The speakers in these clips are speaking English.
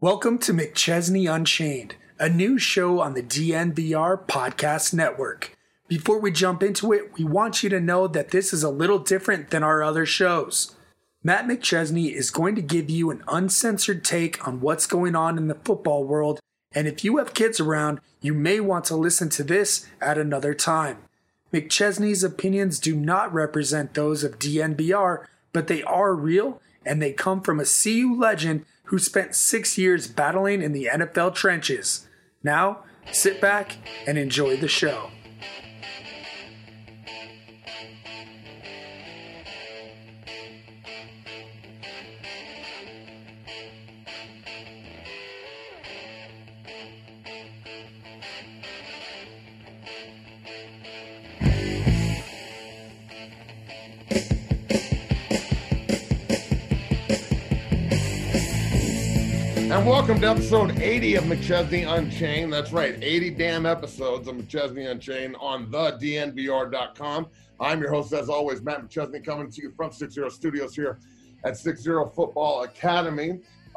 Welcome to McChesney Unchained, a new show on the DNVR Podcast Network. Before we jump into it, we want you to know that this is a little different than our other shows. Matt McChesney is going to give you an uncensored take on what's going on in the football world, and if you have kids around, you may want to listen to this at another time. McChesney's opinions do not represent those of DNVR, but they are real, and they come from a CU legend who spent 6 years battling in the NFL trenches. Now, sit back and enjoy the show. And welcome to episode 80 of McChesney Unchained. That's right, 80 damn episodes of McChesney Unchained on the DNVR.com. I'm your host, as always, Matt McChesney, coming to you from 60 Studios here at 60 Football Academy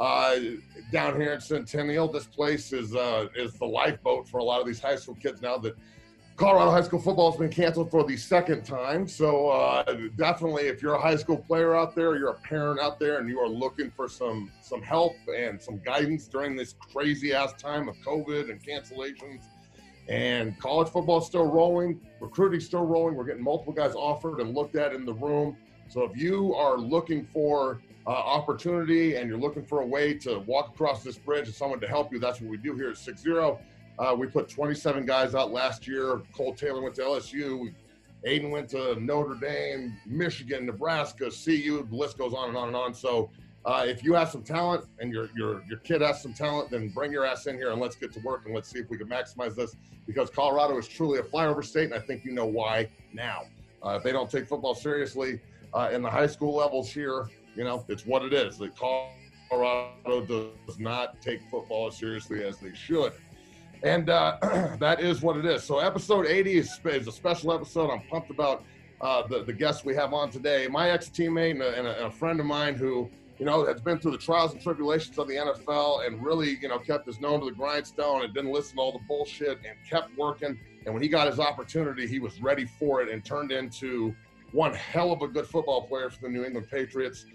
down here in Centennial. This place is the lifeboat for a lot of these high school kids now that Colorado high school football has been canceled for the second time. So definitely, if you're a high school player out there, you're a parent out there, and you are looking for some help and some guidance during this crazy-ass time of COVID and cancellations, and college football is still rolling, recruiting still rolling. We're getting multiple guys offered and looked at in the room. So if you are looking for opportunity and you're looking for a way to walk across this bridge and someone to help you, that's what we do here at 60. We put 27 guys out last year. Cole Taylor went to LSU. Aiden went to Notre Dame, Michigan, Nebraska, CU. The list goes on and on and on. So if you have some talent and your kid has some talent, then bring your ass in here and let's get to work and let's see if we can maximize this, because Colorado is truly a flyover state, and I think you know why now. If they don't take football seriously in the high school levels here, you know, it's what it is. That Colorado does not take football as seriously as they should. And that is what it is. So episode 80 is a special episode. I'm pumped about the guests we have on today. My ex-teammate and a friend of mine who, you know, has been through the trials and tribulations of the NFL and really, you know, kept his nose to the grindstone and didn't listen to all the bullshit and kept working. And when he got his opportunity, he was ready for it and turned into one hell of a good football player for the New England Patriots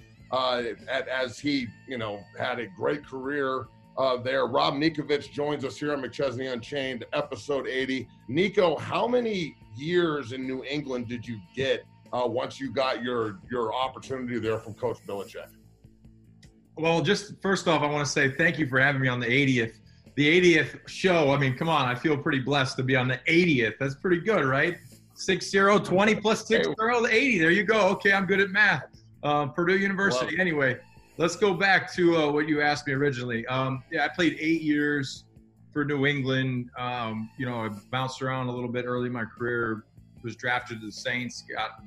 as he, you know, had a great career there. Rob Ninkovich joins us here on McChesney Unchained, episode 80. Nico, how many years in New England did you get once you got your opportunity there from Coach Belichick? Well, just first off, I want to say thank you for having me on the 80th show. I mean, come on, I feel pretty blessed to be on the 80th. That's pretty good, right? 60, 20 plus 60, 80. There you go. Okay, I'm good at math. Purdue University. Anyway. Let's go back to what you asked me originally. I played 8 years for New England. You know, I bounced around a little bit early in my career. Was drafted to the Saints.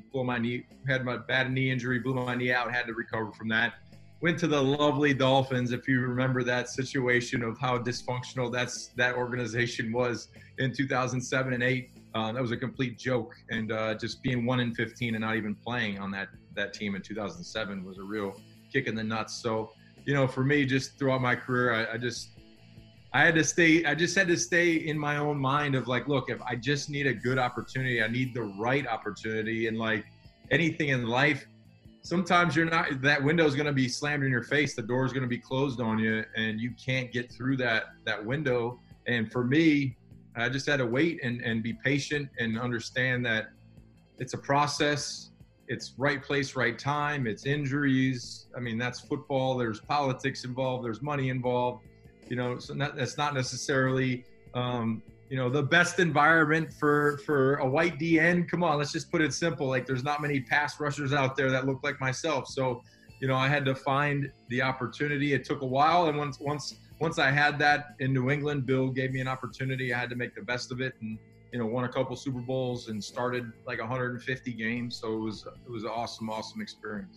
Had my bad knee injury, blew my knee out, had to recover from that. Went to the lovely Dolphins. If you remember that situation of how dysfunctional that organization was in 2007 and 8, that was a complete joke. And just being 1-15 and not even playing on that team in 2007 was a real kick in the nuts. So, you know, for me, just throughout my career, I just had to stay in my own mind of like, look, if I just need a good opportunity, I need the right opportunity. And like anything in life, sometimes that window is going to be slammed in your face. The door is going to be closed on you and you can't get through that window. And for me, I just had to wait and be patient and understand that it's a process. It's right place, right time. It's injuries. I mean, that's football. There's politics involved. There's money involved. You know, so that's not necessarily, you know, the best environment for a white DN. Come on, let's just put it simple. Like, there's not many pass rushers out there that look like myself. So, you know, I had to find the opportunity. It took a while, and once I had that in New England, Bill gave me an opportunity. I had to make the best of it, and you know, won a couple Super Bowls and started like 150 games. So it was an awesome experience.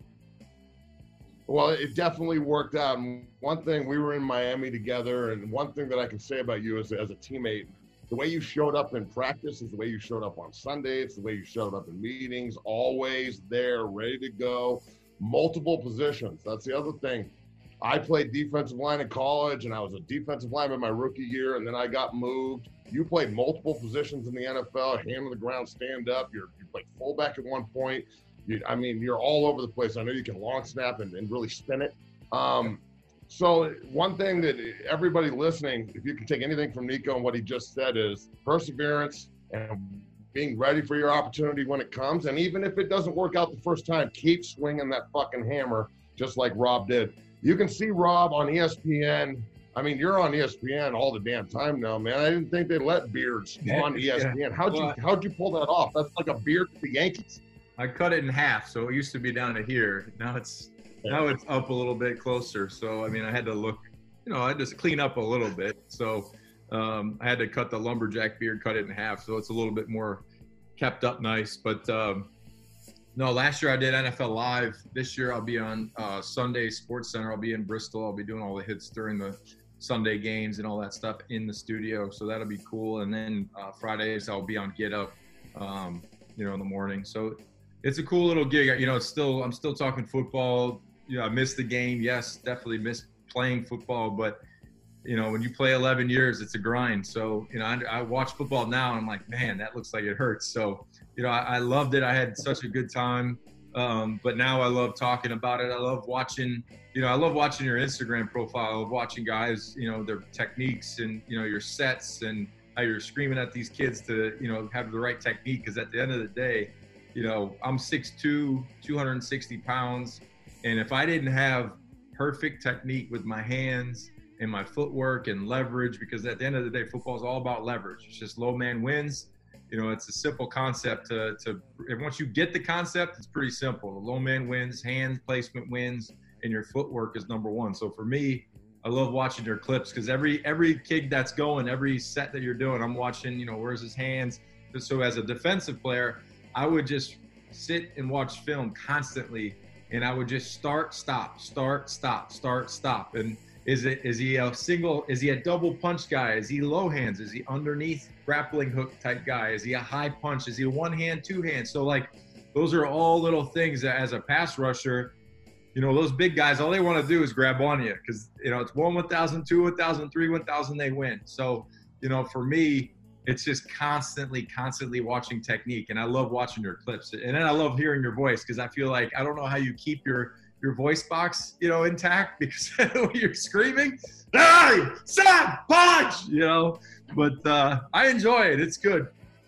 Well, it definitely worked out. And one thing, we were in Miami together, and one thing that I can say about you as a teammate, the way you showed up in practice is the way you showed up on Sundays, the way you showed up in meetings, always there, ready to go, multiple positions. That's the other thing. I played defensive line in college, and I was a defensive lineman my rookie year, and then I got moved. You played multiple positions in the NFL, hand on the ground, stand up. You played fullback at one point. You're all over the place. I know you can long snap and really spin it. So one thing that everybody listening, if you can take anything from Nico and what he just said, is perseverance and being ready for your opportunity when it comes. And even if it doesn't work out the first time, keep swinging that fucking hammer just like Rob did. You can see Rob on ESPN. I mean, you're on ESPN all the damn time now, man. I didn't think they let beards on ESPN. Yeah. How'd you pull that off? That's like a beard to the Yankees. I cut it in half, so it used to be down to here. Now it's up a little bit closer. So I mean, I had to look, I had to clean up a little bit. So I had to cut the lumberjack beard, cut it in half, so it's a little bit more kept up nice. But no, last year I did NFL Live. This year I'll be on Sunday Sports Center. I'll be in Bristol. I'll be doing all the hits during the Sunday games and all that stuff in the studio. So that'll be cool. And then Fridays I'll be on Get Up, in the morning. So it's a cool little gig. I'm still talking football. I missed the game. Yes, definitely missed playing football. But, when you play 11 years, it's a grind. So, I watch football now and I'm like, man, that looks like it hurts. So, I loved it. I had such a good time. But now I love talking about it. I love watching, your Instagram profile. I love watching guys, their techniques and, your sets and how you're screaming at these kids to, have the right technique. Because at the end of the day, I'm 6'2", 260 pounds. And if I didn't have perfect technique with my hands and my footwork and leverage, because at the end of the day, football is all about leverage. It's just low man wins. It's a simple concept and once you get the concept, it's pretty simple. The low man wins, hand placement wins, and your footwork is number one. So for me, I love watching your clips because every kid that's going, every set that you're doing, I'm watching, where's his hands. So as a defensive player, I would just sit and watch film constantly, and I would just start, stop. And is he a double punch guy? Is he low hands? Is he underneath grappling hook type guy? Is he a high punch? Is he a one hand, two hands? So like, those are all little things that as a pass rusher, those big guys, all they want to do is grab on you because, it's 1,000, 2, 1,000, 3, 1,000, they win. So, for me, it's just constantly watching technique. And I love watching your clips. And then I love hearing your voice because I feel like, I don't know how you keep your voice box, intact because when you're screaming, hey, stop, punch, but I enjoy it. It's good.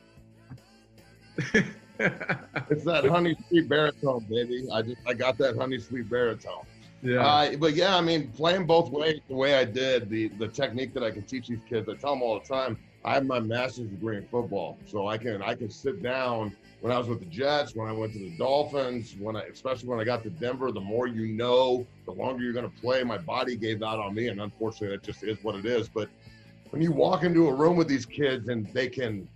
It's that honey sweet baritone, baby. I got that honey sweet baritone. Yeah. But yeah, I mean, playing both ways the way I did, the technique that I can teach these kids, I tell them all the time, I have my master's degree in football. So I can sit down. When I was with the Jets, when I went to the Dolphins, especially when I got to Denver, the more the longer you're going to play, my body gave out on me. And unfortunately, that just is what it is. But when you walk into a room with these kids and they can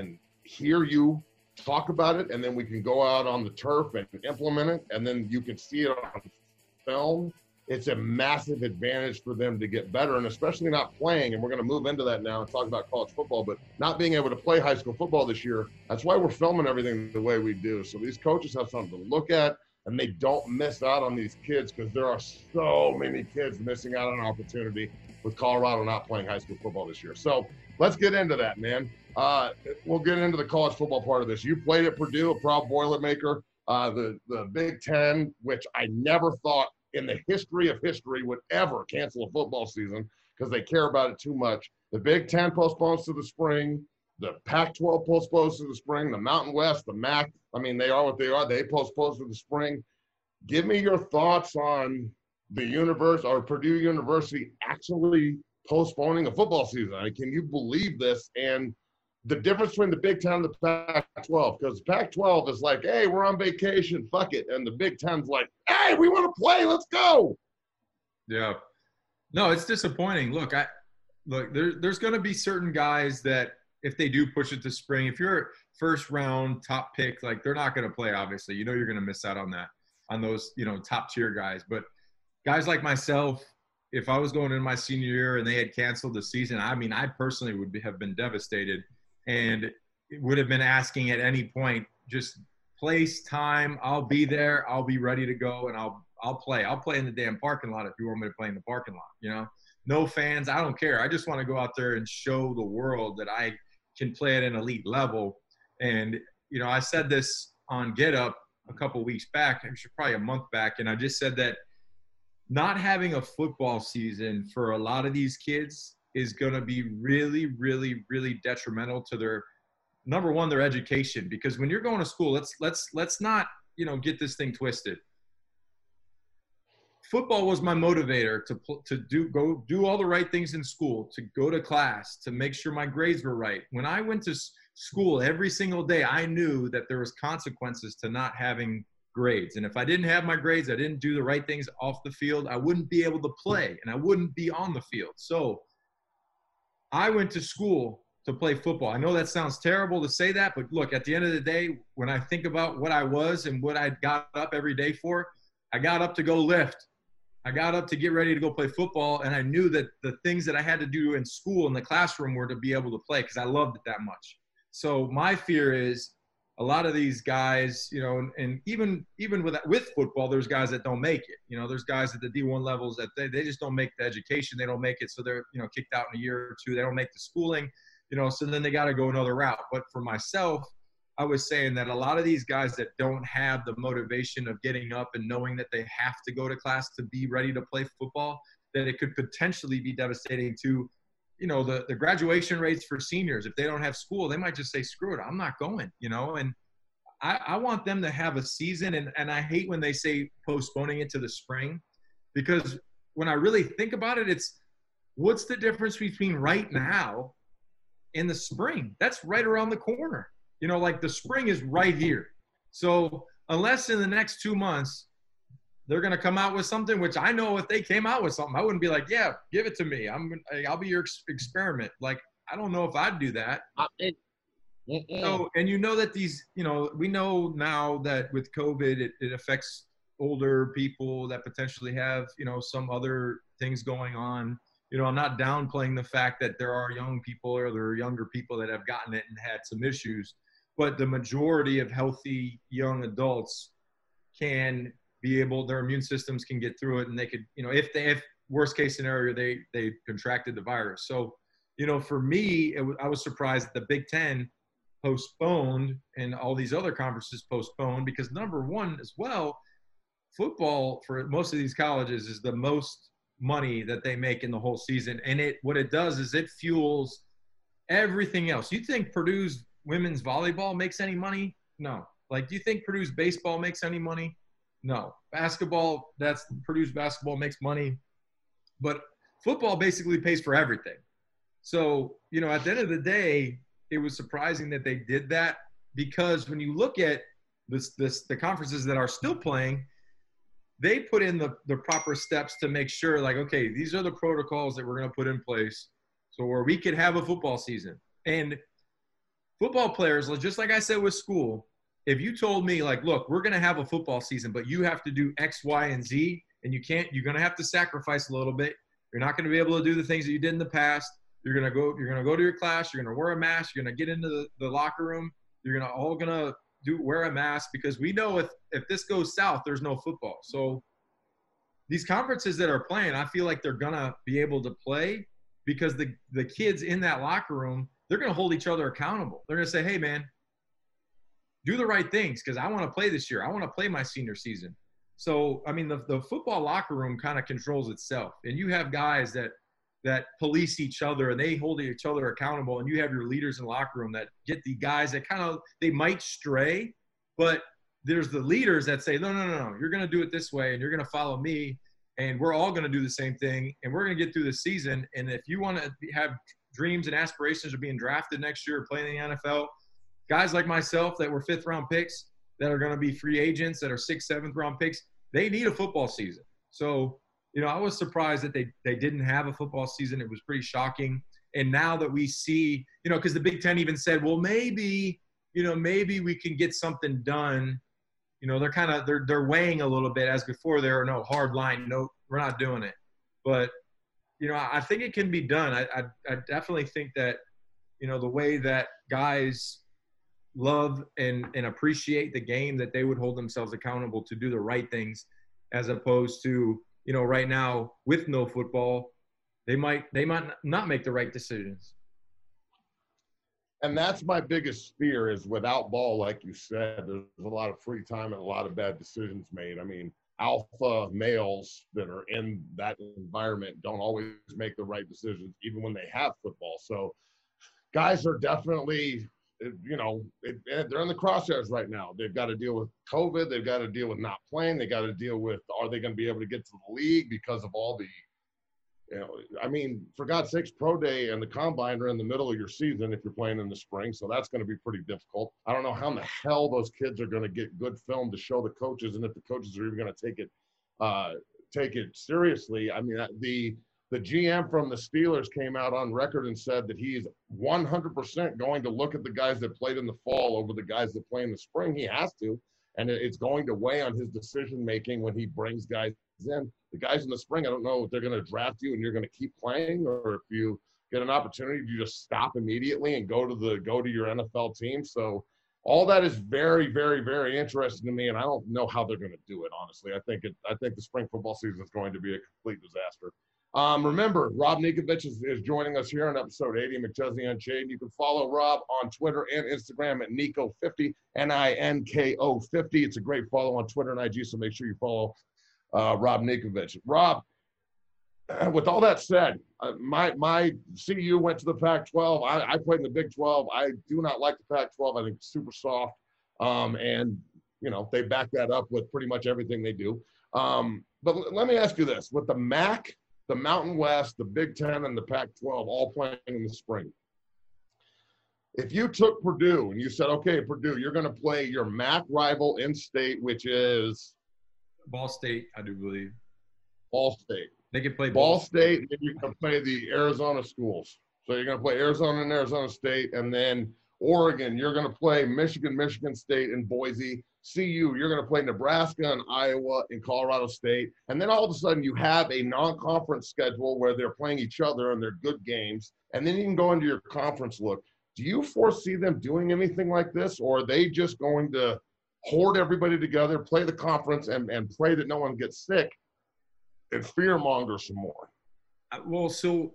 hear you talk about it, and then we can go out on the turf and implement it, and then you can see it on film, it's a massive advantage for them to get better, and especially not playing. And we're going to move into that now and talk about college football, but not being able to play high school football this year. That's why we're filming everything the way we do. So these coaches have something to look at, and they don't miss out on these kids because there are so many kids missing out on an opportunity with Colorado not playing high school football this year. So let's get into that, man. We'll get into the college football part of this. You played at Purdue, a proud Boilermaker, the Big Ten, which I never thought in the history of history would ever cancel a football season because they care about it too much. The Big Ten postpones to the spring. The Pac-12 postpones to the spring. The Mountain West, the MAC, I mean, they are what they are. They postpone to the spring. Give me your thoughts on the Purdue University actually postponing a football season. I mean, can you believe this? And the difference between the Big Ten and the Pac-12, because the Pac-12 is like, hey, we're on vacation, fuck it. And the Big Ten's like, hey, we want to play, let's go. Yeah. No, it's disappointing. Look, there's going to be certain guys that if they do push it to spring, if you're first round top pick, like they're not going to play, obviously. You're going to miss out on that, on those, top tier guys. But guys like myself, if I was going in my senior year and they had canceled the season, I mean, I personally have been devastated and would have been asking at any point, just place, time, I'll be there, I'll be ready to go, and I'll play in the damn parking lot if you want me to play in the parking lot. No fans, I don't care. I just want to go out there and show the world that I can play at an elite level. And I said this on Get Up a couple weeks back, actually probably a month back, and I just said that not having a football season for a lot of these kids is going to be really, really, really detrimental to their, number one, their education. Because when you're going to school, let's not, get this thing twisted. Football was my motivator to go do all the right things in school, to go to class, to make sure my grades were right. When I went to school every single day, I knew that there was consequences to not having grades. And if I didn't have my grades, I didn't do the right things off the field, I wouldn't be able to play and I wouldn't be on the field. So I went to school to play football. I know that sounds terrible to say that, but look, at the end of the day, when I think about what I was and what I got up every day for, I got up to go lift. I got up to get ready to go play football, and I knew that the things that I had to do in school, in the classroom, were to be able to play because I loved it that much. So my fear is a lot of these guys, and even with football, there's guys that don't make it. There's guys at the D1 levels that they just don't make the education. They don't make it, so they're kicked out in a year or two. They don't make the schooling, so then they got to go another route. But for myself, I was saying that a lot of these guys that don't have the motivation of getting up and knowing that they have to go to class to be ready to play football, that it could potentially be devastating to, the graduation rates for seniors. If they don't have school, they might just say, screw it, I'm not going, and I want them to have a season. And I hate when they say postponing it to the spring, because when I really think about it, it's what's the difference between right now and the spring? That's right around the corner. Like the spring is right here. So unless in the next 2 months they're going to come out with something, which I know if they came out with something, I wouldn't be like, yeah, give it to me. I'll be your experiment. Like, I don't know if I'd do that. So, and that these, we know now that with COVID, it affects older people that potentially have, some other things going on. I'm not downplaying the fact that there are young people or there are younger people that have gotten it and had some issues. But the majority of healthy young adults can be able, their immune systems can get through it, and they could, if worst case scenario, they contracted the virus. So, for me, I was surprised that the Big Ten postponed and all these other conferences postponed, because number one as well, football for most of these colleges is the most money that they make in the whole season. And what it does is it fuels everything else. You think Purdue's women's volleyball makes any money? No. Like, do you think Purdue's baseball makes any money? No. Basketball, Purdue's basketball makes money. But football basically pays for everything. So, at the end of the day, it was surprising that they did that, because when you look at the conferences that are still playing, they put in the proper steps to make sure, like, okay, these are the protocols that we're going to put in place so where we could have a football season. And football players, just like I said with school, if you told me, like, look, we're going to have a football season, but you have to do X, Y, and Z, and you're going to have to sacrifice a little bit. You're not going to be able to do the things that you did in the past. You're going to go to your class. You're going to wear a mask. You're going to get into the locker room. You're going to wear a mask, because we know if this goes south, there's no football. So these conferences that are playing, I feel like they're going to be able to play, because the kids in that locker room, they're going to hold each other accountable. They're going to say, hey, man, do the right things, because I want to play this year. I want to play my senior season. So, I mean, the football locker room kind of controls itself. And you have guys that police each other and they hold each other accountable. And you have your leaders in the locker room that get the guys that they might stray, but there's the leaders that say, no, you're going to do it this way, and you're going to follow me, and we're all going to do the same thing, and we're going to get through the season. And if you want to have dreams and aspirations of being drafted next year or playing in the NFL, guys like myself that were 5th-round picks that are going to be free agents that are 6th, 7th-round picks, they need a football season. So, I was surprised that they didn't have a football season. It was pretty shocking. And now that we see, because the Big Ten even said, well, maybe we can get something done. They're weighing a little bit, as before there are no hard line. No, we're not doing it. But, I think it can be done. I definitely think that, the way that guys love and appreciate the game, that they would hold themselves accountable to do the right things. as opposed to, right now with no football, they might not make the right decisions. And that's my biggest fear is without ball, like you said, there's a lot of free time and a lot of bad decisions made. I mean, alpha males that are in that environment don't always make the right decisions, even when they have football. So guys are definitely, they're in the crosshairs right now. They've got to deal with COVID. They've got to deal with not playing. They got to deal with, are they going to be able to get to the league because of all the, for God's sakes, pro day and the combine are in the middle of your season if you're playing in the spring. So that's going to be pretty difficult. I don't know how in the hell those kids are going to get good film to show the coaches, and if the coaches are even going to take it seriously. I mean, the GM from the Steelers came out on record and said that he's 100% going to look at the guys that played in the fall over the guys that play in the spring. He has to, and it's going to weigh on his decision-making when he brings guys in. The guys in the spring, I don't know if they're going to draft you and you're going to keep playing, or if you get an opportunity, you just stop immediately and go to your NFL team. So all that is very, very, very interesting to me, and I don't know how they're going to do it, honestly. I think the spring football season is going to be a complete disaster. Remember, Rob Ninkovich is joining us here on episode 80 of McChesney Unchained. You can follow Rob on Twitter and Instagram at Ninko50, Ninko50. It's a great follow on Twitter and IG, so make sure you follow Rob Ninkovich. Rob, with all that said, my CU went to the Pac-12. I played in the Big 12. I do not like the Pac-12. I think it's super soft, and they back that up with pretty much everything they do. But let me ask you this: with the MAC, the Mountain West, the Big 10, and the Pac-12 all playing in the spring, if you took Purdue and you said, okay, Purdue, you're going to play your MAC rival in state, which is Ball State, I do believe. Ball State. They can play Ball State, and you're going to play the Arizona schools. So you're going to play Arizona and Arizona State, and then Oregon, you're going to play Michigan State, and Boise. CU, you're going to play Nebraska and Iowa and Colorado State. And then all of a sudden you have a non-conference schedule where they're playing each other and they're good games. And then you can go into your conference look. Do you foresee them doing anything like this, or are they just going to hoard everybody together, play the conference, and pray that no one gets sick and fear-monger some more? Well, so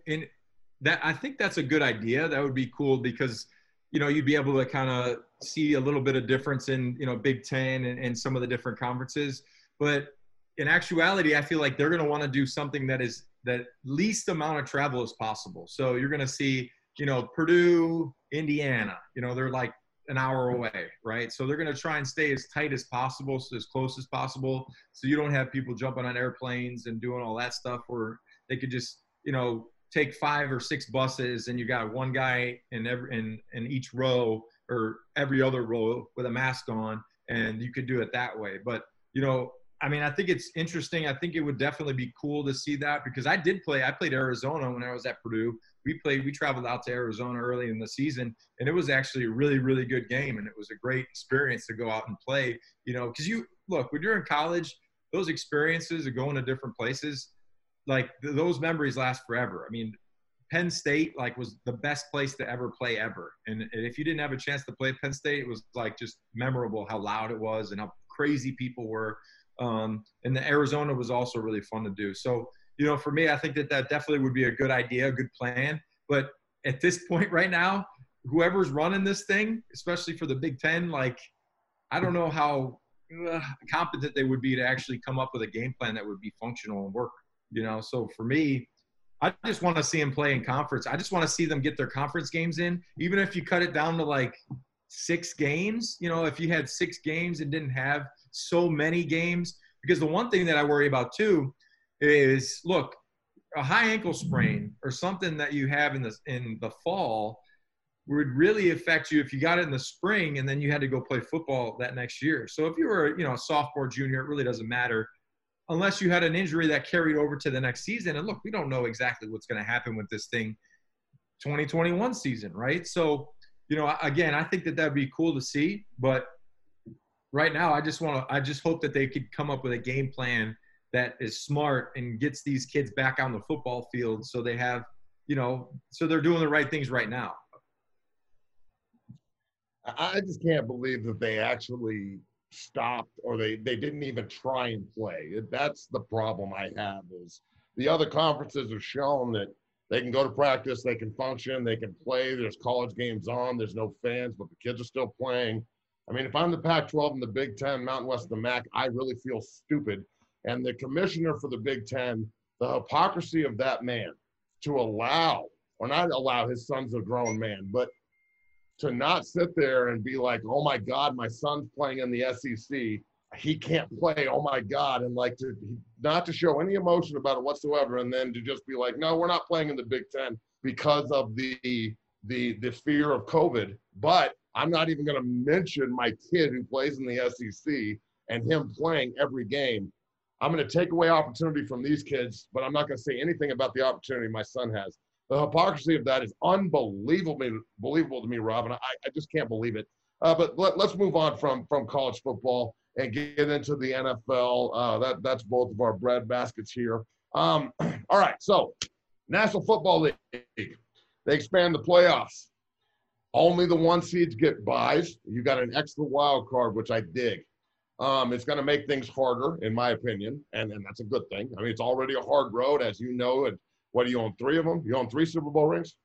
I think that's a good idea. That would be cool because – you'd be able to kind of see a little bit of difference in, Big Ten and some of the different conferences. But in actuality, I feel like they're going to want to do something that is the least amount of travel as possible. So you're going to see, Purdue, Indiana, they're like an hour away, right? So they're going to try and stay as tight as possible, so as close as possible. So you don't have people jumping on airplanes and doing all that stuff where they could just, take 5 or 6 buses and you got one guy in each row or every other row with a mask on, and you could do it that way. But, I think it's interesting. I think it would definitely be cool to see that because I played Arizona when I was at Purdue. We traveled out to Arizona early in the season, and it was actually a really, really good game. And it was a great experience to go out and play, because when you're in college, those experiences of going to different places, like those memories last forever. I mean, Penn State was the best place to ever play ever. And if you didn't have a chance to play Penn State, it was just memorable how loud it was and how crazy people were. And the Arizona was also really fun to do. So, for me, I think that definitely would be a good idea, a good plan. But at this point right now, whoever's running this thing, especially for the Big Ten, I don't know how competent they would be to actually come up with a game plan that would be functional and work. So for me, I just want to see them play in conference. I just want to see them get their conference games in, even if you cut it down to 6 games. If you had 6 games and didn't have so many games, because the one thing that I worry about too is, look, a high ankle sprain or something that you have in the fall would really affect you if you got it in the spring and then you had to go play football that next year. So if you were, a sophomore, junior, it really doesn't matter. Unless you had an injury that carried over to the next season. And look, we don't know exactly what's going to happen with this thing 2021 season, right? So, again, I think that would be cool to see. But right now, I just hope that they could come up with a game plan that is smart and gets these kids back on the football field so they have, so they're doing the right things right now. I just can't believe that they actually stopped or they didn't even try and play. That's the problem I have is the other conferences have shown that they can go to practice, they can function, they can play. There's college games on, there's no fans, but the kids are still playing. I mean, if I'm the Pac-12 and the Big Ten, Mountain West of the MAC, I really feel stupid. And the commissioner for the Big Ten, the hypocrisy of that man to allow, or not allow, his son's a grown man, but to not sit there and be like, oh my God, my son's playing in the SEC. He can't play. Oh my God. And like not to show any emotion about it whatsoever. And then to just be like, no, we're not playing in the Big Ten because of the fear of COVID. But I'm not even going to mention my kid who plays in the SEC and him playing every game. I'm going to take away opportunity from these kids, but I'm not going to say anything about the opportunity my son has. The hypocrisy of that is unbelievable to me, Rob, and I just can't believe it. But let's move on from college football and get into the NFL. That's both of our bread baskets here. All right, so National Football League, they expand the playoffs. Only the 1 seeds get buys. You got an extra wild card, which I dig. It's going to make things harder, in my opinion, and that's a good thing. I mean, it's already a hard road, as you know. And what do you own? 3 of them? You own 3 Super Bowl rings?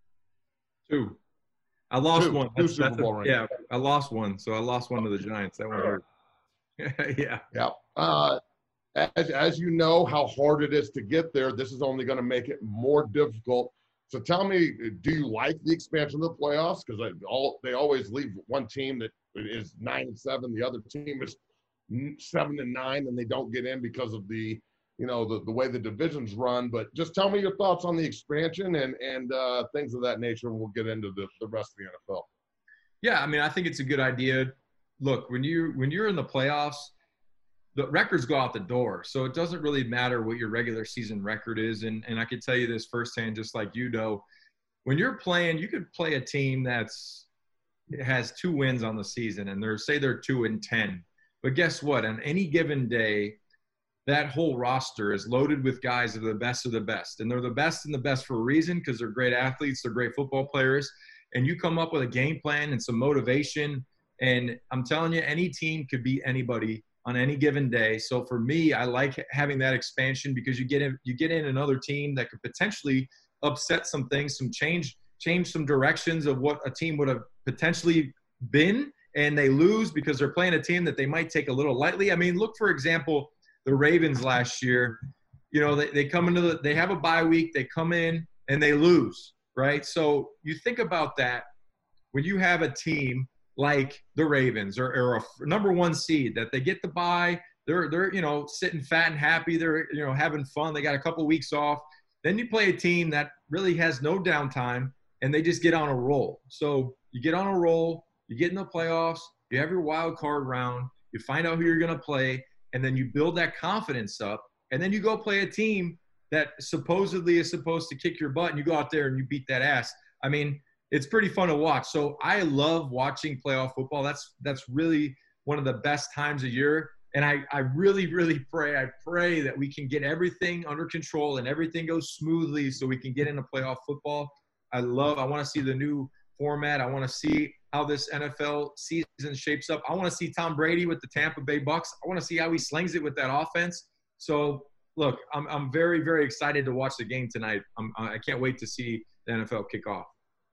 2. I lost one. Two Super Bowl rings. Yeah, I lost one. So I lost one to the Giants. That one hurt. Yeah. Yeah. As you know how hard it is to get there, this is only going to make it more difficult. So tell me, do you like the expansion of the playoffs? Because they always leave one team that is 9-7, the other team is 7-9, and they don't get in because of the way the divisions run. But just tell me your thoughts on the expansion and things of that nature, and we'll get into the rest of the NFL. Yeah, I mean, I think it's a good idea. Look, when you're in the playoffs, the records go out the door. So it doesn't really matter what your regular season record is. And I can tell you this firsthand, just like you know, when you're playing, you could play a team has 2 wins on the season, and they're 2-10. But guess what? On any given day, that whole roster is loaded with guys that are the best of the best. And they're the best and the best for a reason, because they're great athletes, they're great football players. And you come up with a game plan and some motivation. And I'm telling you, any team could beat anybody on any given day. So for me, I like having that expansion, because you get in another team that could potentially upset some things, change some directions of what a team would have potentially been, and they lose because they're playing a team that they might take a little lightly. I mean, look, for example, the Ravens last year. You know, they come into they have a bye week, they come in and they lose, right? So you think about that when you have a team like the Ravens or a number 1 seed that they get the bye, they're sitting fat and happy, they're having fun, they got a couple weeks off. Then you play a team that really has no downtime and they just get on a roll. So you get on a roll, you get in the playoffs, you have your wild card round, you find out who you're going to play, and then you build that confidence up, and then you go play a team that supposedly is supposed to kick your butt, and you go out there and you beat that ass. I mean, it's pretty fun to watch. So I love watching playoff football. That's really one of the best times of year. And I really, really pray that we can get everything under control and everything goes smoothly so we can get into playoff football. I want to see the new format. I want to see how this NFL season shapes up. I want to see Tom Brady with the Tampa Bay Bucks. I want to see how he slings it with that offense. So, look, I'm very, very excited to watch the game tonight. I can't wait to see the NFL kick off.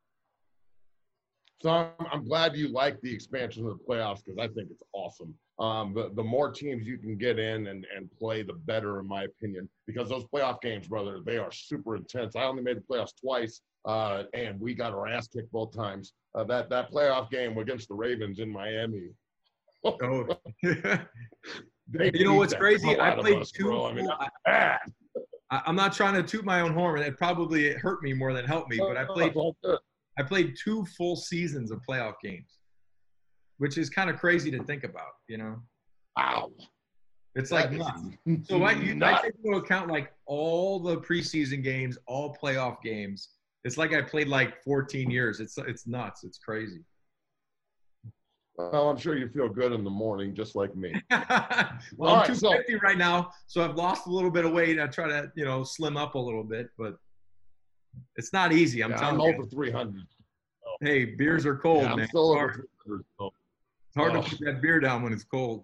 So I'm glad you like the expansion of the playoffs, because I think it's awesome. The more teams you can get in and play, the better, in my opinion, because those playoff games, brother, they are super intense. I only made the playoffs twice, and we got our ass kicked both times. That playoff game against the Ravens in Miami. Oh. You know what's crazy? I played 2. I'm not trying to toot my own horn. It hurt me more than helped me, but I played 2 full seasons of playoff games, which is kind of crazy to think about, you know? Wow. It's like nuts. So I take into account like all the preseason games, all playoff games. It's like I played like 14 years. It's nuts. It's crazy. Well, I'm sure you feel good in the morning, just like me. Well, I'm 250 right now, so I've lost a little bit of weight. I try to, slim up a little bit, but it's not easy. I'm telling you. I'm over 300. Hey, beers are cold, man. I'm still over 300. So. It's hard to put that beer down when it's cold.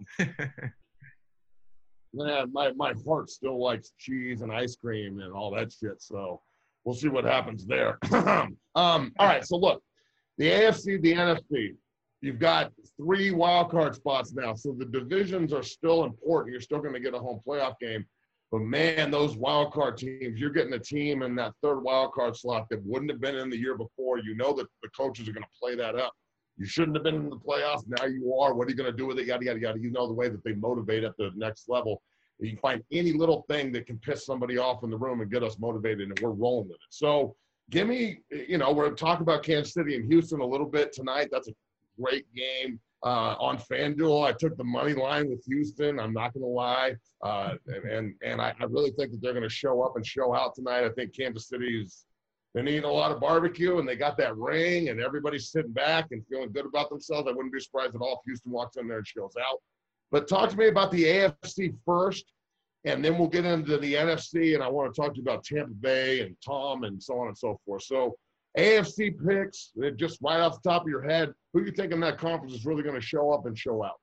Man, my heart still likes cheese and ice cream and all that shit. So we'll see what happens there. All right. So look, the AFC, the NFC, you've got 3 wild card spots now. So the divisions are still important. You're still going to get a home playoff game. But man, those wild card teams, you're getting a team in that 3rd wild card slot that wouldn't have been in the year before. You know that the coaches are going to play that up. You shouldn't have been in the playoffs. Now you are. What are you going to do with it? Yada, yada, yada. You know the way that they motivate at the next level. You find any little thing that can piss somebody off in the room and get us motivated, and we're rolling with it. So give me, we're going to talk about Kansas City and Houston a little bit tonight. That's a great game. On FanDuel, I took the money line with Houston. I'm not going to lie. And I really think that they're going to show up and show out tonight. I think Kansas City's been eating a lot of barbecue, and they got that ring, and everybody's sitting back and feeling good about themselves. I wouldn't be surprised at all if Houston walks in there and shows out. But talk to me about the AFC first, and then we'll get into the NFC, and I want to talk to you about Tampa Bay and Tom and so on and so forth. So AFC picks, just right off the top of your head, who you think in that conference is really going to show up and show out?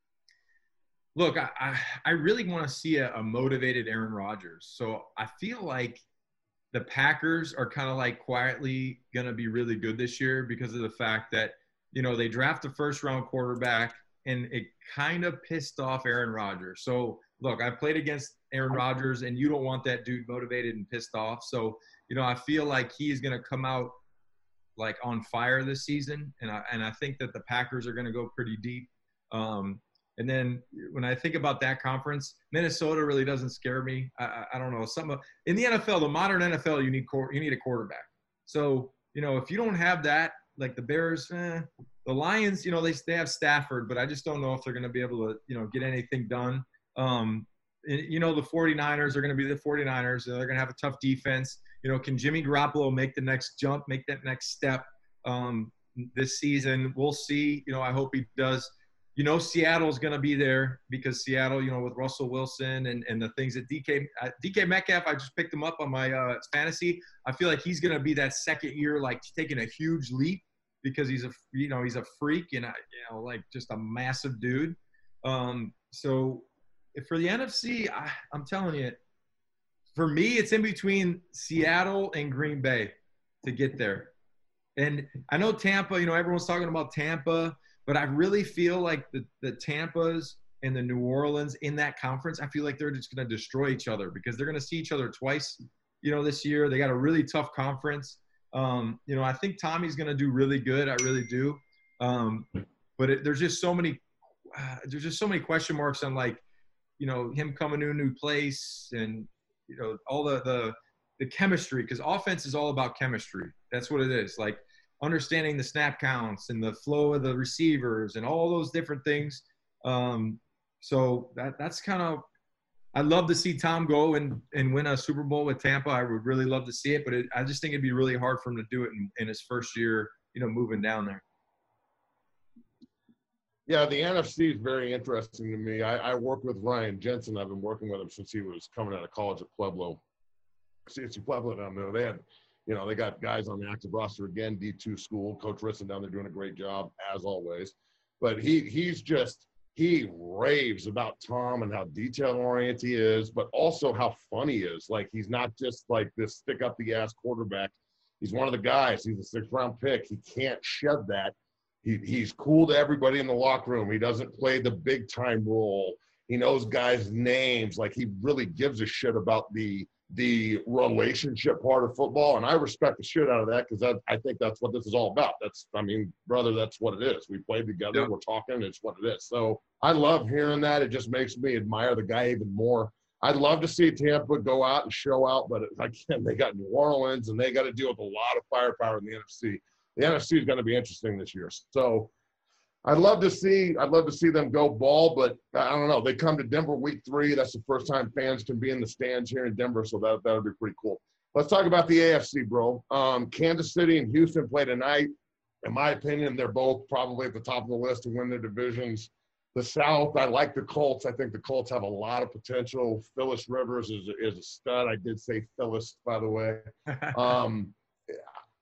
Look, I really want to see a motivated Aaron Rodgers. So I feel like the Packers are kind of like quietly going to be really good this year because of the fact that, they draft a first-round quarterback, and it kind of pissed off Aaron Rodgers. So, look, I played against Aaron Rodgers, and you don't want that dude motivated and pissed off. So, I feel like he's going to come out like on fire this season, and I think that the Packers are going to go pretty deep. And then when I think about that conference, Minnesota really doesn't scare me. I don't know. In the NFL, the modern NFL, you need a quarterback. So, if you don't have that, like the Bears, the Lions, they have Stafford, but I just don't know if they're going to be able to, get anything done. The 49ers are going to be the 49ers. They're going to have a tough defense. Can Jimmy Garoppolo make the next jump, make that next step this season? We'll see. I hope he does. Seattle's going to be there because Seattle, with Russell Wilson and the things that DK Metcalf, I just picked him up on my fantasy. I feel like he's going to be that second year, like taking a huge leap because he's a freak and like just a massive dude. So for the NFC, I'm telling you, for me, it's in between Seattle and Green Bay to get there. And I know Tampa, everyone's talking about Tampa, but I really feel like the Tampas and the New Orleans in that conference, I feel like they're just going to destroy each other because they're going to see each other twice, this year. They got a really tough conference. I think Tommy's going to do really good. I really do. But there's just so many question marks on like, him coming to a new place and, all the chemistry, because offense is all about chemistry. That's what it is. Like understanding the snap counts and the flow of the receivers and all those different things. So that's kind of – I'd love to see Tom go and win a Super Bowl with Tampa. I would really love to see it, but I just think it'd be really hard for him to do it in his first year, moving down there. Yeah, the NFC is very interesting to me. I work with Ryan Jensen. I've been working with him since he was coming out of college at Pueblo. CSU Pueblo down there. They had, they got guys on the active roster again, D2 school. Coach Risson down there doing a great job, as always. But he raves about Tom and how detail-oriented he is, but also how fun he is. Like, he's not just like this stick-up-the-ass quarterback. He's one of the guys. He's a 6th-round pick. He can't shed that. He's cool to everybody in the locker room. He doesn't play the big-time role. He knows guys' names. Like, he really gives a shit about the relationship part of football, and I respect the shit out of that because I think that's what this is all about. That's what it is. We played together. Yeah. We're talking. It's what it is. So I love hearing that. It just makes me admire the guy even more. I'd love to see Tampa go out and show out, but again, they got New Orleans, and they got to deal with a lot of firepower in the NFC. The NFC is going to be interesting this year. So I'd love to see them go ball, but I don't know. They come to Denver week 3. That's the first time fans can be in the stands here in Denver, so that'll be pretty cool. Let's talk about the AFC, bro. Kansas City and Houston play tonight. In my opinion, they're both probably at the top of the list to win their divisions. The South, I like the Colts. I think the Colts have a lot of potential. Phyllis Rivers is a stud. I did say Phyllis, by the way.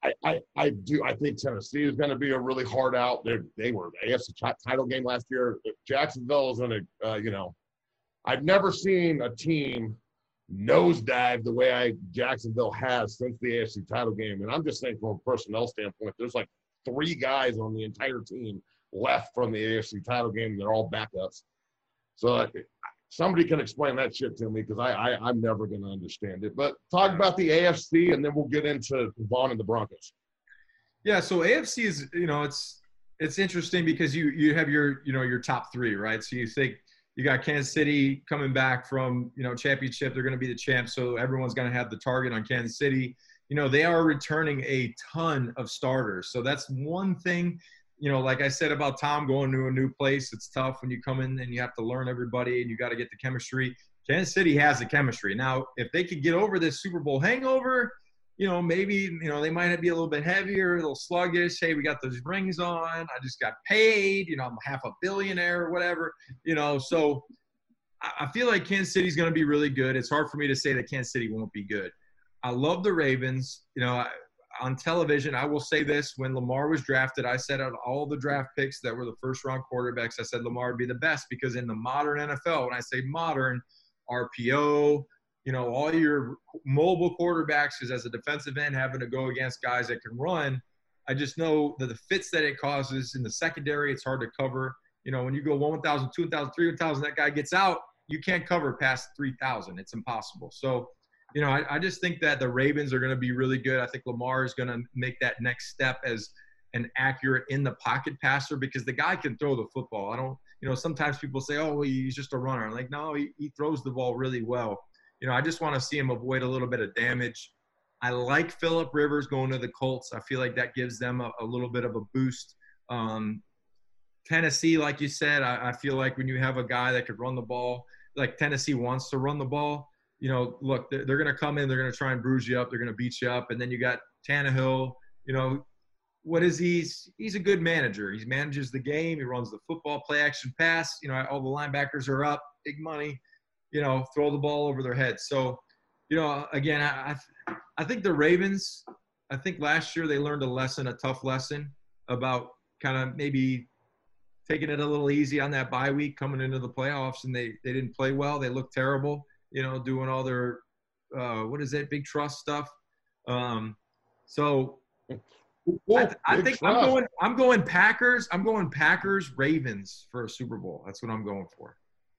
I do. I think Tennessee is going to be a really hard out. They were the AFC title game last year. Jacksonville is going to, I've never seen a team nosedive the way Jacksonville has since the AFC title game. And I'm just saying from a personnel standpoint, there's like 3 guys on the entire team left from the AFC title game. They're all backups. So somebody can explain that shit to me because I'm never going to understand it. But talk about the AFC, and then we'll get into Vaughn and the Broncos. Yeah, so AFC is, it's interesting because you have your top 3, right? So you think you got Kansas City coming back from, championship. They're going to be the champs, so everyone's going to have the target on Kansas City. They are returning a ton of starters. So that's one thing. Like I said about Tom going to a new place, it's tough when you come in and you have to learn everybody and you got to get the chemistry. Kansas City has the chemistry. Now, if they could get over this Super Bowl hangover, maybe, they might be a little bit heavier, a little sluggish. Hey, we got those rings on. I just got paid. I'm half a billionaire or whatever, So I feel like Kansas City's going to be really good. It's hard for me to say that Kansas City won't be good. I love the Ravens. On television, I will say this. When Lamar was drafted, I said out of all the draft picks that were the first-round quarterbacks, I said Lamar would be the best because in the modern NFL, when I say modern, RPO, all your mobile quarterbacks, because as a defensive end, having to go against guys that can run, I just know that the fits that it causes in the secondary, it's hard to cover. When you go 1,000, 2,000, 3,000, that guy gets out, you can't cover past 3,000. It's impossible. So, I just think that the Ravens are going to be really good. I think Lamar is going to make that next step as an accurate in-the-pocket passer because the guy can throw the football. I don't, sometimes people say, oh, well, he's just a runner. I'm like, no, he throws the ball really well. I just want to see him avoid a little bit of damage. I like Phillip Rivers going to the Colts. I feel like that gives them a little bit of a boost. Tennessee, like you said, I feel like when you have a guy that could run the ball, like Tennessee wants to run the ball, look, they're going to come in, they're going to try and bruise you up, they're going to beat you up. And then you got Tannehill, what is he? He's a good manager. He manages the game. He runs the football, play action pass. All the linebackers are up, big money, throw the ball over their heads. So, again, I think the Ravens, I think last year they learned a tough lesson about kind of maybe taking it a little easy on that bye week coming into the playoffs, and they didn't play well. They looked terrible. Doing all their, big trust stuff. So I think I'm going Packers. I'm going Packers Ravens for a Super Bowl. That's what I'm going for.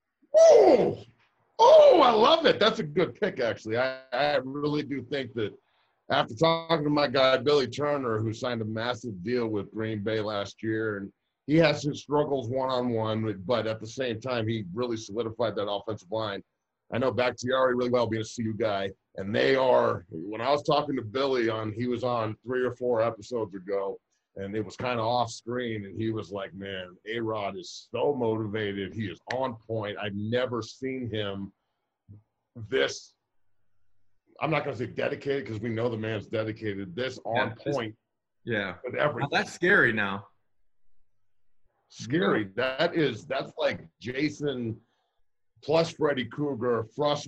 Oh, I love it. That's a good pick, actually. I really do think that after talking to my guy, Billy Turner, who signed a massive deal with Green Bay last year, and he has his struggles one-on-one, but at the same time, he really solidified that offensive line. I know Bakhtiari really well, being a CU guy, and they are – when I was talking to Billy he was on 3 or 4 episodes ago, and it was kind of off screen, and he was like, man, A-Rod is so motivated. He is on point. I've never seen him this – I'm not going to say dedicated because we know the man's dedicated. This on point. Yeah. With everything. Now that's scary now. Scary. That's like Jason – plus Freddy Krueger, plus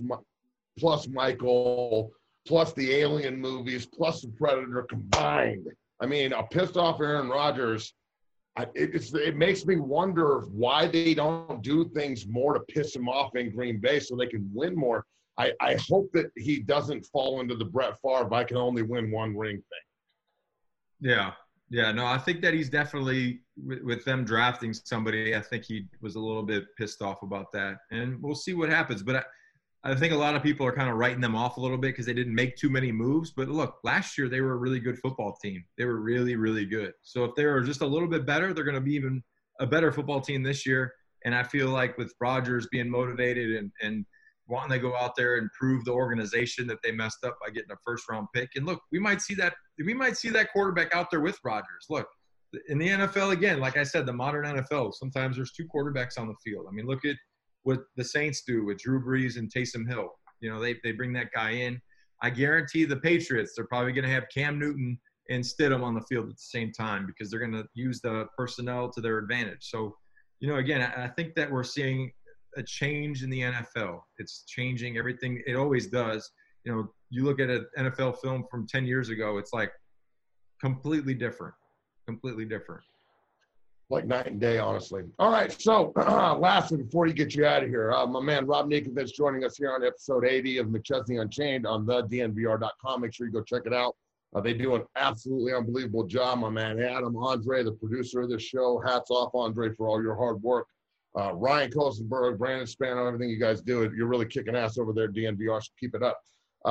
Michael, plus the Alien movies, plus the Predator combined. I mean, a pissed off Aaron Rodgers, it makes me wonder why they don't do things more to piss him off in Green Bay so they can win more. I hope that he doesn't fall into the Brett Favre, I can only win one ring thing. Yeah, no, I think that he's definitely, with them drafting somebody, I think he was a little bit pissed off about that. And we'll see what happens. But I think a lot of people are kind of writing them off a little bit because they didn't make too many moves. But look, last year they were a really good football team. They were really, really good. So if they were just a little bit better, they're going to be even a better football team this year. And I feel like with Rodgers being motivated and wanting to go out there and prove the organization that they messed up by getting a first-round pick. And look, we might see that quarterback out there with Rodgers. Look, in the NFL, again, like I said, the modern NFL, sometimes there's 2 quarterbacks on the field. I mean, look at what the Saints do with Drew Brees and Taysom Hill. They bring that guy in. I guarantee the Patriots, they're probably going to have Cam Newton and Stidham on the field at the same time because they're going to use the personnel to their advantage. So, again, I think that we're seeing a change in the NFL. It's changing everything. It always does. You look at an NFL film from 10 years ago, it's like completely different. Completely different. Like night and day, honestly. All right, so lastly, before you get you out of here, my man Rob Ninkovich joining us here on episode 80 of McChesney Unchained on thednvr.com. Make sure you go check it out. They do an absolutely unbelievable job, my man Adam Andre, the producer of this show. Hats off, Andre, for all your hard work. Ryan Kosenberg, Brandon Spano, everything you guys do, you're really kicking ass over there at DNVR, so keep it up.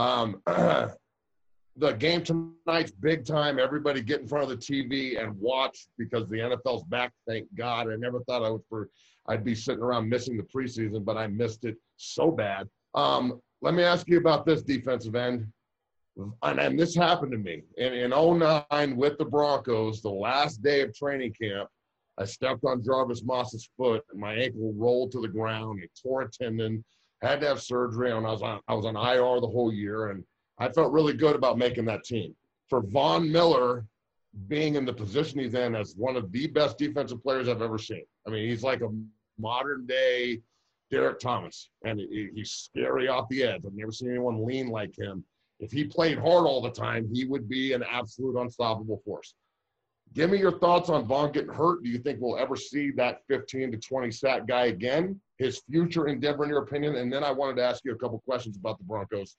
The game tonight's big time. Everybody get in front of the TV and watch because the NFL's back, thank God. I never thought I'd be sitting around missing the preseason, but I missed it so bad. Let me ask you about this defensive end. And this happened to me. In 09 with the Broncos, the last day of training camp, I stepped on Jarvis Moss's foot and my ankle rolled to the ground. It tore a tendon, had to have surgery, and I was on IR the whole year. And I felt really good about making that team. For Von Miller being in the position he's in as one of the best defensive players I've ever seen. I mean, he's like a modern-day Derek Thomas, and he's scary off the edge. I've never seen anyone lean like him. If he played hard all the time, he would be an absolute unstoppable force. Give me your thoughts on Von getting hurt. Do you think we'll ever see that 15 to 20 sack guy again? His future in Denver, in your opinion? And then I wanted to ask you a couple questions about the Broncos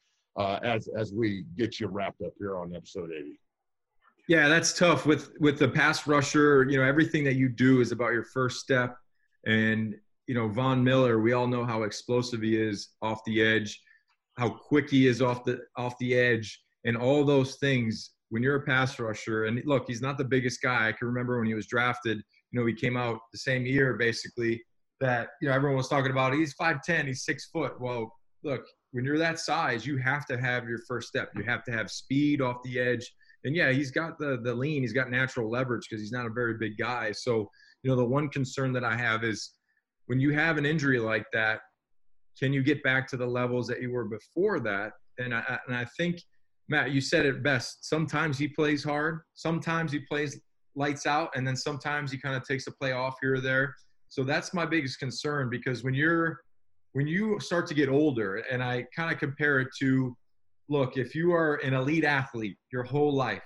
as we get you wrapped up here on episode 80. Yeah, that's tough with the pass rusher. You know, everything that you do is about your first step. And, you know, Von Miller, we all know how explosive he is off the edge, how quick he is off the edge, and all those things. When you're a pass rusher, and look, he's not the biggest guy. I can remember when he was drafted, you know, he came out the same year basically that, you know, everyone was talking about he's 5'10", he's 6 foot. Well, look, when you're that size, you have to have your first step. You have to have speed off the edge. And yeah, he's got the lean, he's got natural leverage because he's not a very big guy. So, you know, the one concern that I have is when you have an injury like that, can you get back to the levels that you were before that? And I think, Matt, you said it best. Sometimes he plays hard. Sometimes he plays lights out. And then sometimes he kind of takes a play off here or there. So that's my biggest concern because when you start to get older, and I kind of compare it to, look, if you are an elite athlete your whole life,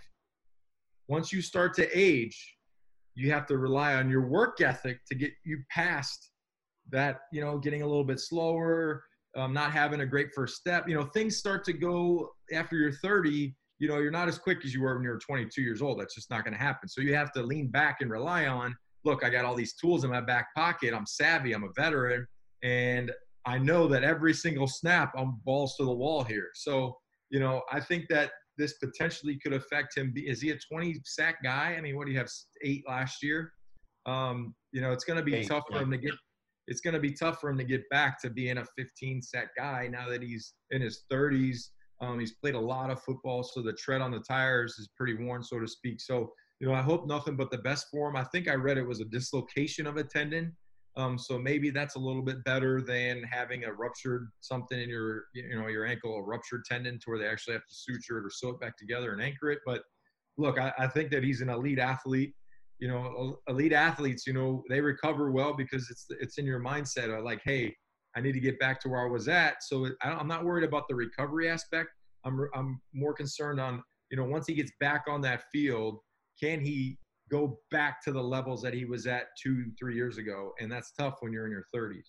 once you start to age, you have to rely on your work ethic to get you past that, you know, getting a little bit slower, not having a great first step. You know, things start to go after you're 30, you know, you're not as quick as you were when you were 22 years old. That's just not going to happen. So you have to lean back and rely on, look, I got all these tools in my back pocket. I'm savvy. I'm a veteran. And I know that every single snap, I'm balls to the wall here. So, you know, I think that this potentially could affect him. Is he a 20 sack guy? I mean, what do you have, 8 last year? You know, it's going to be tough for him to get. It's going to be tough for him to get back to being a 15 sack guy now that he's in his 30s. He's played a lot of football, so the tread on the tires is pretty worn, so to speak. So, you know, I hope nothing but the best for him. I think I read it was a dislocation of a tendon. So maybe that's a little bit better than having a ruptured something in your, you know, your ankle, a ruptured tendon to where they actually have to suture it or sew it back together and anchor it. But look, I think that he's an elite athlete. You know, elite athletes, you know, they recover well because it's in your mindset of like, hey, I need to get back to where I was at. So I'm not worried about the recovery aspect. I'm more concerned on, you know, once he gets back on that field, can he go back to the levels that he was at 2-3 years ago? And that's tough when you're in your 30s.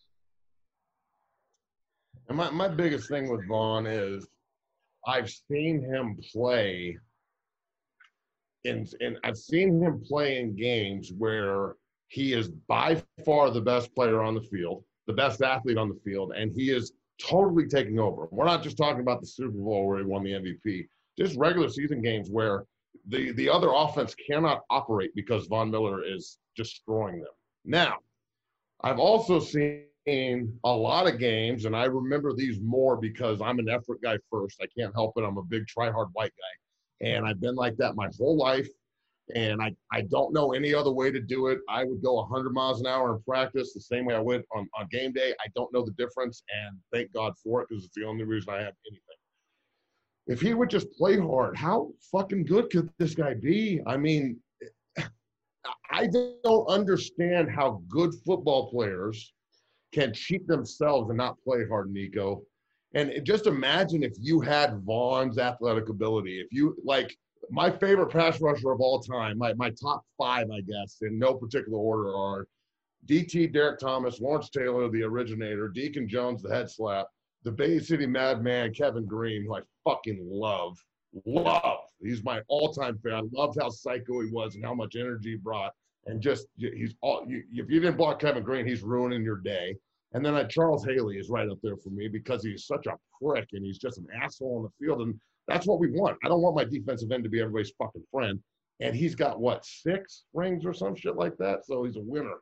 And my biggest thing with Von is I've seen him play and I've seen him play in games where he is by far the best player on the field, the best athlete on the field, and he is totally taking over. We're not just talking about the Super Bowl where he won the MVP, just regular season games where the other offense cannot operate because Von Miller is destroying them. Now, I've also seen a lot of games, and I remember these more because I'm an effort guy first. I can't help it. I'm a big try-hard white guy. And I've been like that my whole life, and I don't know any other way to do it. I would go 100 miles an hour in practice the same way I would on game day. I don't know the difference, and thank God for it because it's the only reason I have anything. If he would just play hard, how fucking good could this guy be? I mean, I don't understand how good football players can cheat themselves and not play hard, Nico. And just imagine if you had Von's athletic ability. If you, like, My favorite pass rusher of all time, my top 5, I guess, in no particular order, are DT, Derek Thomas, Lawrence Taylor, the originator, Deacon Jones, the head slap, the Bay City Madman, Kevin Green, who I fucking love. He's my all-time fan. I loved how psycho he was and how much energy he brought. And just, if you didn't block Kevin Green, he's ruining your day. And then Charles Haley is right up there for me because he's such a prick and he's just an asshole on the field. And that's what we want. I don't want my defensive end to be everybody's fucking friend. And he's got, 6 rings or some shit like that? So he's a winner.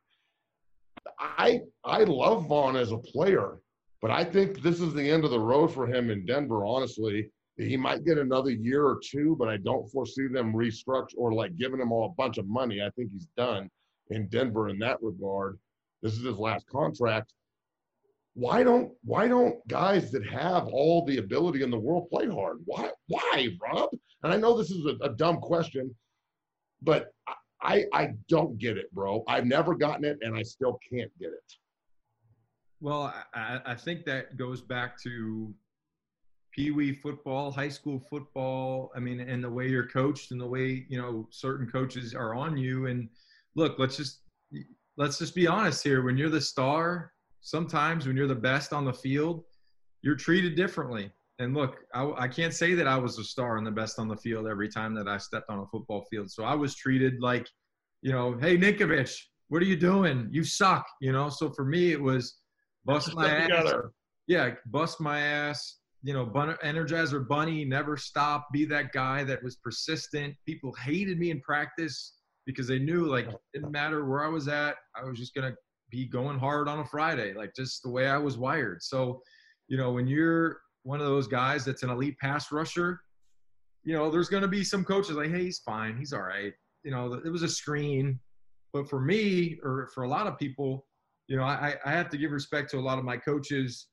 I love Vaughn as a player, but I think this is the end of the road for him in Denver, honestly. He might get another year or 2, but I don't foresee them restructure or giving him a bunch of money. I think he's done in Denver in that regard. This is his last contract. Why don't guys that have all the ability in the world play hard? Why, Rob? And I know this is a dumb question, but I don't get it, bro. I've never gotten it, and I still can't get it. Well, I think that goes back to Pee-wee football, high school football. I mean, and the way you're coached and the way, certain coaches are on you. And look, let's just be honest here. When you're the star, sometimes when you're the best on the field, you're treated differently. And look, I can't say that I was the star and the best on the field every time that I stepped on a football field. So I was treated like, hey, Ninkovich, what are you doing? You suck, So for me, it was bust my ass. Together. Yeah, bust my ass. Energizer Bunny, never stop, be that guy that was persistent. People hated me in practice because they knew, it didn't matter where I was at. I was just going to be going hard on a Friday, just the way I was wired. So, when you're one of those guys that's an elite pass rusher, there's going to be some coaches like, hey, he's fine. He's all right. It was a screen. But for me, or for a lot of people, I have to give respect to a lot of my coaches,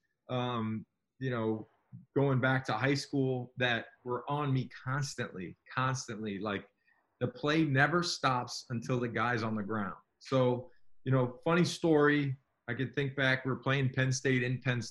going back to high school that were on me constantly. The play never stops until the guy's on the ground. So, funny story. I could think back, we were playing Penn State,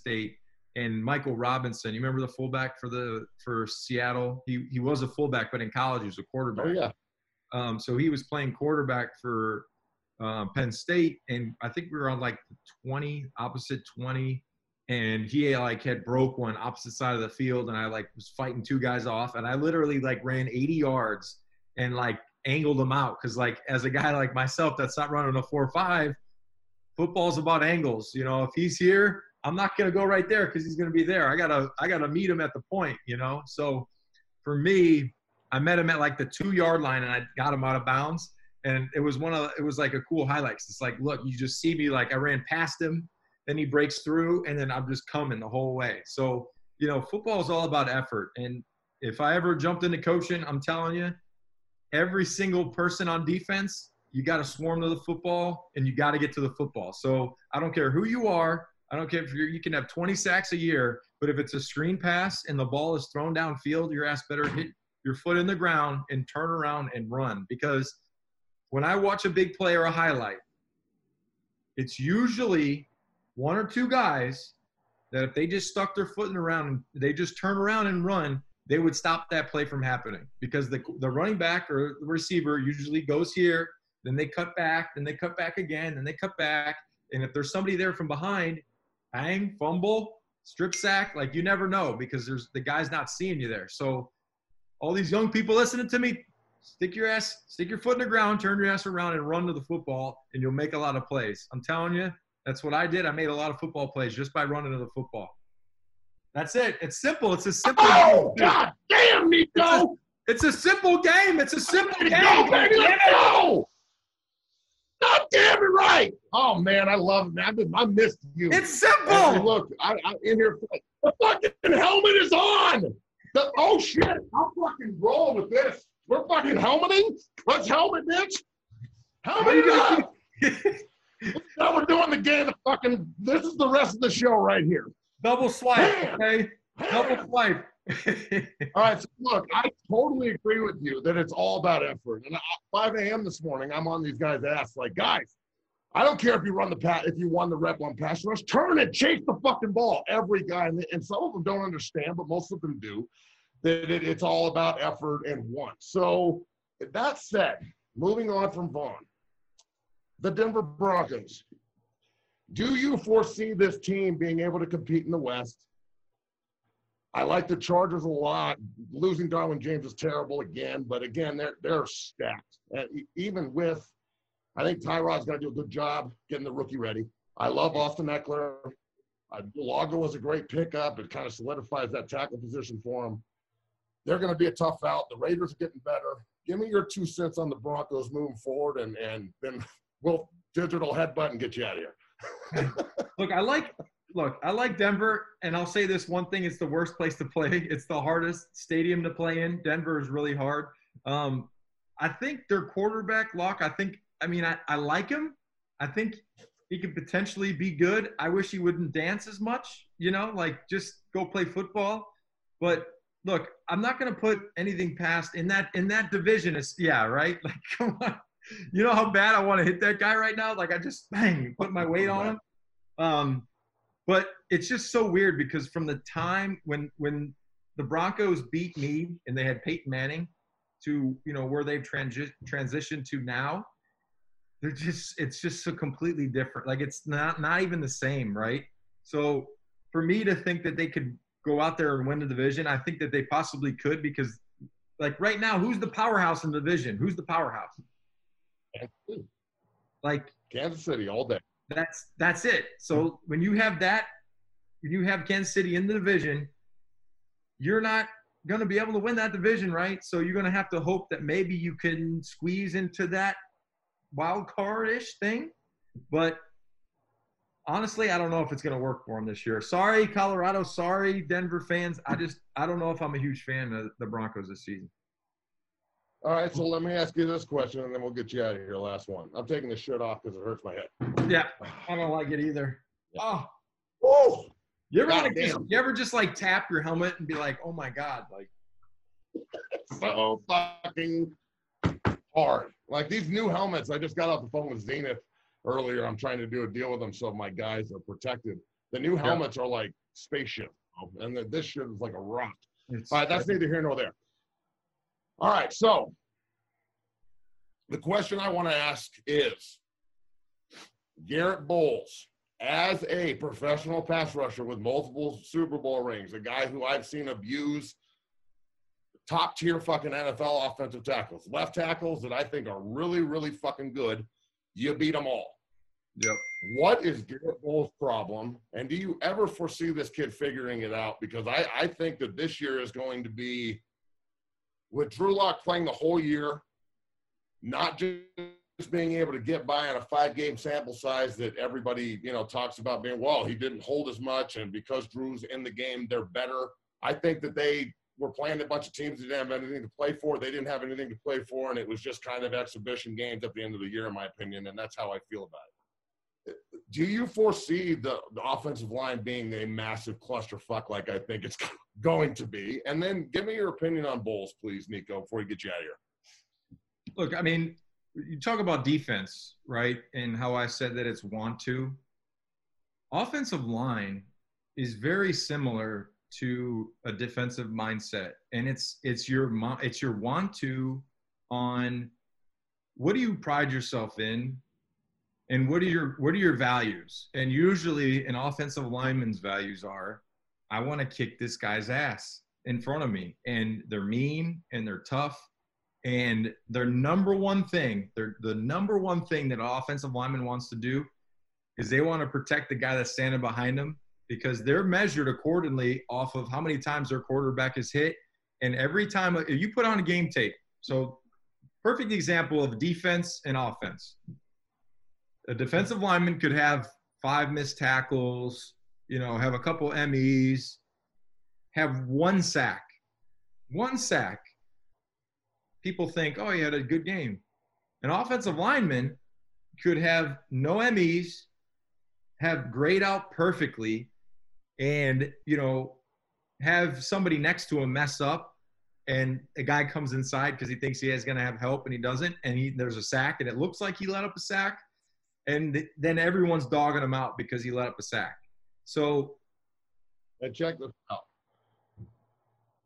and Michael Robinson, you remember the fullback for Seattle? He was a fullback, but in college he was a quarterback. Oh, yeah. So he was playing quarterback for Penn State, and I think we were on the 20, opposite 20, and he had broke one opposite side of the field, and I was fighting 2 guys off, and I literally ran 80 yards and angled them out because as a guy like myself that's not running a 4.5, football's about angles. If he's here, I'm not gonna go right there because he's gonna be there. I gotta meet him at the point. So for me, I met him at the 2-yard line and I got him out of bounds, and it was a cool highlight. It's look, you just see me I ran past him. Then he breaks through, and then I'm just coming the whole way. So, football is all about effort. And if I ever jumped into coaching, I'm telling you, every single person on defense, you got to swarm to the football, and you got to get to the football. So I don't care who you are. I don't care if you can have 20 sacks a year, but if it's a screen pass and the ball is thrown downfield, your ass better hit your foot in the ground and turn around and run. Because when I watch a big play or a highlight, it's usually 1 or 2 guys that if they just stuck their foot in the ground and they just turn around and run, they would stop that play from happening because the running back or the receiver usually goes here, then they cut back, then they cut back again, then they cut back. And if there's somebody there from behind, bang, fumble, strip sack, you never know because the guy's not seeing you there. So all these young people listening to me, stick your foot in the ground, turn your ass around and run to the football, and you'll make a lot of plays. I'm telling you. That's what I did. I made a lot of football plays just by running to the football. That's it. It's simple. It's a simple game. Oh, God damn, Nico! It's a simple game. It's a simple game. Go, baby, let's go! God damn it, right! Oh, man, I love it, man. I missed you. It's simple! Hey, look, I'm in here. The fucking helmet is on! Oh, shit. I'll fucking roll with this. We're fucking helmeting? Let's helmet, bitch! Helmet it up! Now we're doing the game. This is the rest of the show right here. Double swipe, okay? Double swipe. All right, so look, I totally agree with you that it's all about effort. And at 5 a.m. this morning, I'm on these guys' ass guys, I don't care if you won the rep on pass rush, turn it, chase the fucking ball. Every guy, and some of them don't understand, but most of them do. that it's all about effort and want. So that said, moving on from Vaughn, the Denver Broncos. Do you foresee this team being able to compete in the West? I like the Chargers a lot. Losing Darwin James is terrible again, but again, they're stacked. And even with, I think Tyrod's going to do a good job getting the rookie ready. I love Austin Eckler. Lago was a great pickup. It kind of solidifies that tackle position for him. They're going to be a tough out. The Raiders are getting better. Give me your 2 cents on the Broncos moving forward, and then we'll digital headbutt and get you out of here. Look, I like Denver, and I'll say this one thing: it's the worst place to play. It's the hardest stadium to play in. Denver is really hard. I think their quarterback, Locke, I like him. I think he could potentially be good. I wish he wouldn't dance as much, just go play football. But look, I'm not going to put anything past in that division. Right? Like, come on. You know how bad I want to hit that guy right now? Like, I just put my weight on him. But it's just so weird because from the time when the Broncos beat me and they had Peyton Manning to, where they've transitioned to now, it's just so completely different. Like, it's not even the same, right? So for me to think that they could go out there and win the division, I think that they possibly could because, like, right now, who's the powerhouse in the division? Who's the powerhouse? Like Kansas City all day. That's it. So when you have Kansas City in the division, you're not going to be able to win that division, right? So you're going to have to hope that maybe you can squeeze into that wild card-ish thing. But honestly, I don't know if it's going to work for them this year. Sorry, Colorado. Sorry, Denver fans. I don't know if I'm a huge fan of the Broncos this season. All right, so let me ask you this question, and then we'll get you out of here. Last one. I'm taking the shirt off because it hurts my head. Yeah, I don't like it either. Yeah. Oh, you ever just like tap your helmet and be like, oh my God, like so fucking hard. Like these new helmets, I just got off the phone with Zenith earlier. I'm trying to do a deal with them so my guys are protected. The new helmets are like spaceship, and this shit is like a rock. All right, that's neither here nor there. All right, so the question I want to ask is, Garrett Bowles, as a professional pass rusher with multiple Super Bowl rings, a guy who I've seen abuse top-tier fucking NFL offensive tackles, left tackles that I think are really, really fucking good, you beat them all. Yep. What is Garrett Bowles' problem, and do you ever foresee this kid figuring it out? Because I think that this year is going to be, with Drew Lock playing the whole year, not just being able to get by on a 5-game sample size that everybody, talks about being, well, he didn't hold as much, and because Drew's in the game, they're better. I think that they were playing a bunch of teams that didn't have anything to play for. They didn't have anything to play for, and it was just kind of exhibition games at the end of the year, in my opinion, and that's how I feel about it. Do you foresee the offensive line being a massive clusterfuck like I think it's going to be? And then give me your opinion on Bowles, please, Nico, before we get you out of here. Look, I mean, you talk about defense, right, and how I said that it's want to. Offensive line is very similar to a defensive mindset, and it's your want to on what do you pride yourself in. And what are your values? And usually an offensive lineman's values are, I want to kick this guy's ass in front of me. And they're mean and they're tough. And the number one thing that an offensive lineman wants to do is they want to protect the guy that's standing behind them, because they're measured accordingly off of how many times their quarterback is hit. And every time you put on a game tape. So perfect example of defense and offense. A defensive lineman could have 5 missed tackles, have a couple MEs, have 1 sack. 1 sack. People think, oh, he had a good game. An offensive lineman could have no MEs, have grayed out perfectly, and, have somebody next to him mess up, and a guy comes inside because he thinks he is going to have help, and he doesn't, and there's a sack, and it looks like he let up a sack. And then everyone's dogging him out because he let up a sack. So, and check this out.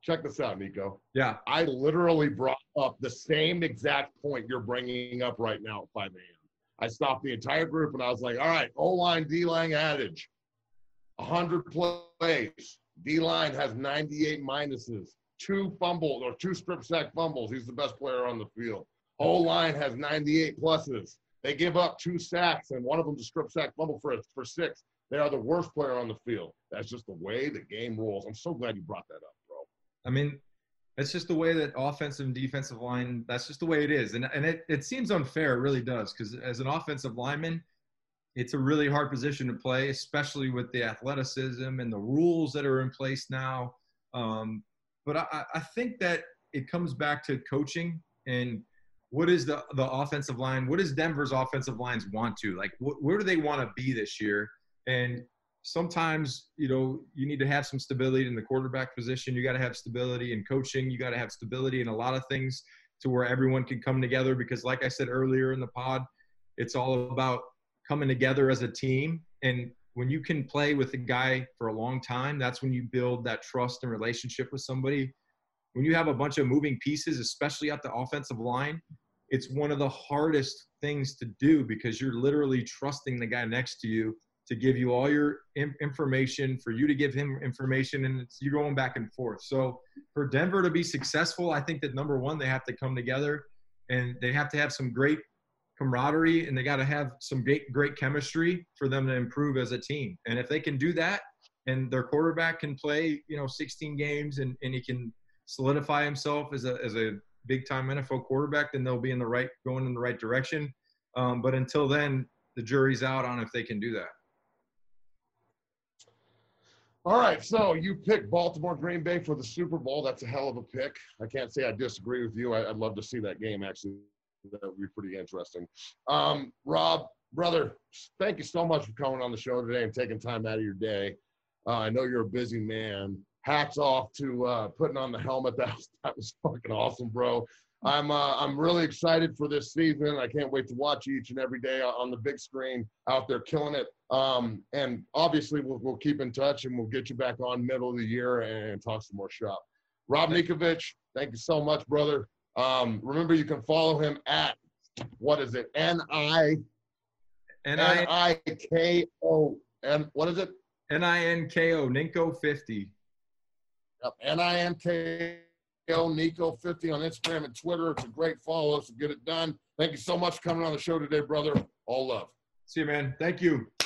check this out, Nico. Yeah. I literally brought up the same exact point you're bringing up right now at 5 a.m. I stopped the entire group and I was like, all right, O-line, D-line adage. 100 plays. D-line has 98 minuses. 2 fumbles or 2 strip sack fumbles. He's the best player on the field. O-line has 98 pluses. They give up 2 sacks, and one of them's a strip sack fumble for 6. They are the worst player on the field. That's just the way the game rolls. I'm so glad you brought that up, bro. I mean, it's just the way that offensive and defensive line, that's just the way it is. And it seems unfair. It really does. Because as an offensive lineman, it's a really hard position to play, especially with the athleticism and the rules that are in place now. But I think that it comes back to coaching and what is the offensive line? What does Denver's offensive lines want to? Like, where do they want to be this year? And sometimes, you need to have some stability in the quarterback position. You got to have stability in coaching. You got to have stability in a lot of things to where everyone can come together. Because like I said earlier in the pod, it's all about coming together as a team. And when you can play with a guy for a long time, that's when you build that trust and relationship with somebody. When you have a bunch of moving pieces, especially at the offensive line, it's one of the hardest things to do because you're literally trusting the guy next to you to give you all your information, for you to give him information, and you're going back and forth. So for Denver to be successful, I think that number one, they have to come together and they have to have some great camaraderie, and they got to have some great chemistry for them to improve as a team. And if they can do that and their quarterback can play, 16 games and he can solidify himself as a big-time NFL quarterback, then they'll be going in the right direction. But until then, the jury's out on if they can do that. All right, so you picked Baltimore Green Bay for the Super Bowl. That's a hell of a pick. I can't say I disagree with you. I'd love to see that game, actually. That would be pretty interesting. Rob, brother, thank you so much for coming on the show today and taking time out of your day. I know you're a busy man. Hats off to putting on the helmet. That was fucking awesome, bro. I'm really excited for this season. I can't wait to watch you each and every day on the big screen out there killing it. And obviously we'll keep in touch and we'll get you back on middle of the year and talk some more shop. Rob Ninkovich, thank you so much, brother. Remember you can follow him at, what is it? N-I-N-I-K-O. And what is it? N-I-N-K-O, Ninko50. Yep, N-I-N-K-O, Nico50 on Instagram and Twitter. It's a great follow, so get it done. Thank you so much for coming on the show today, brother. All love. See you, man. Thank you.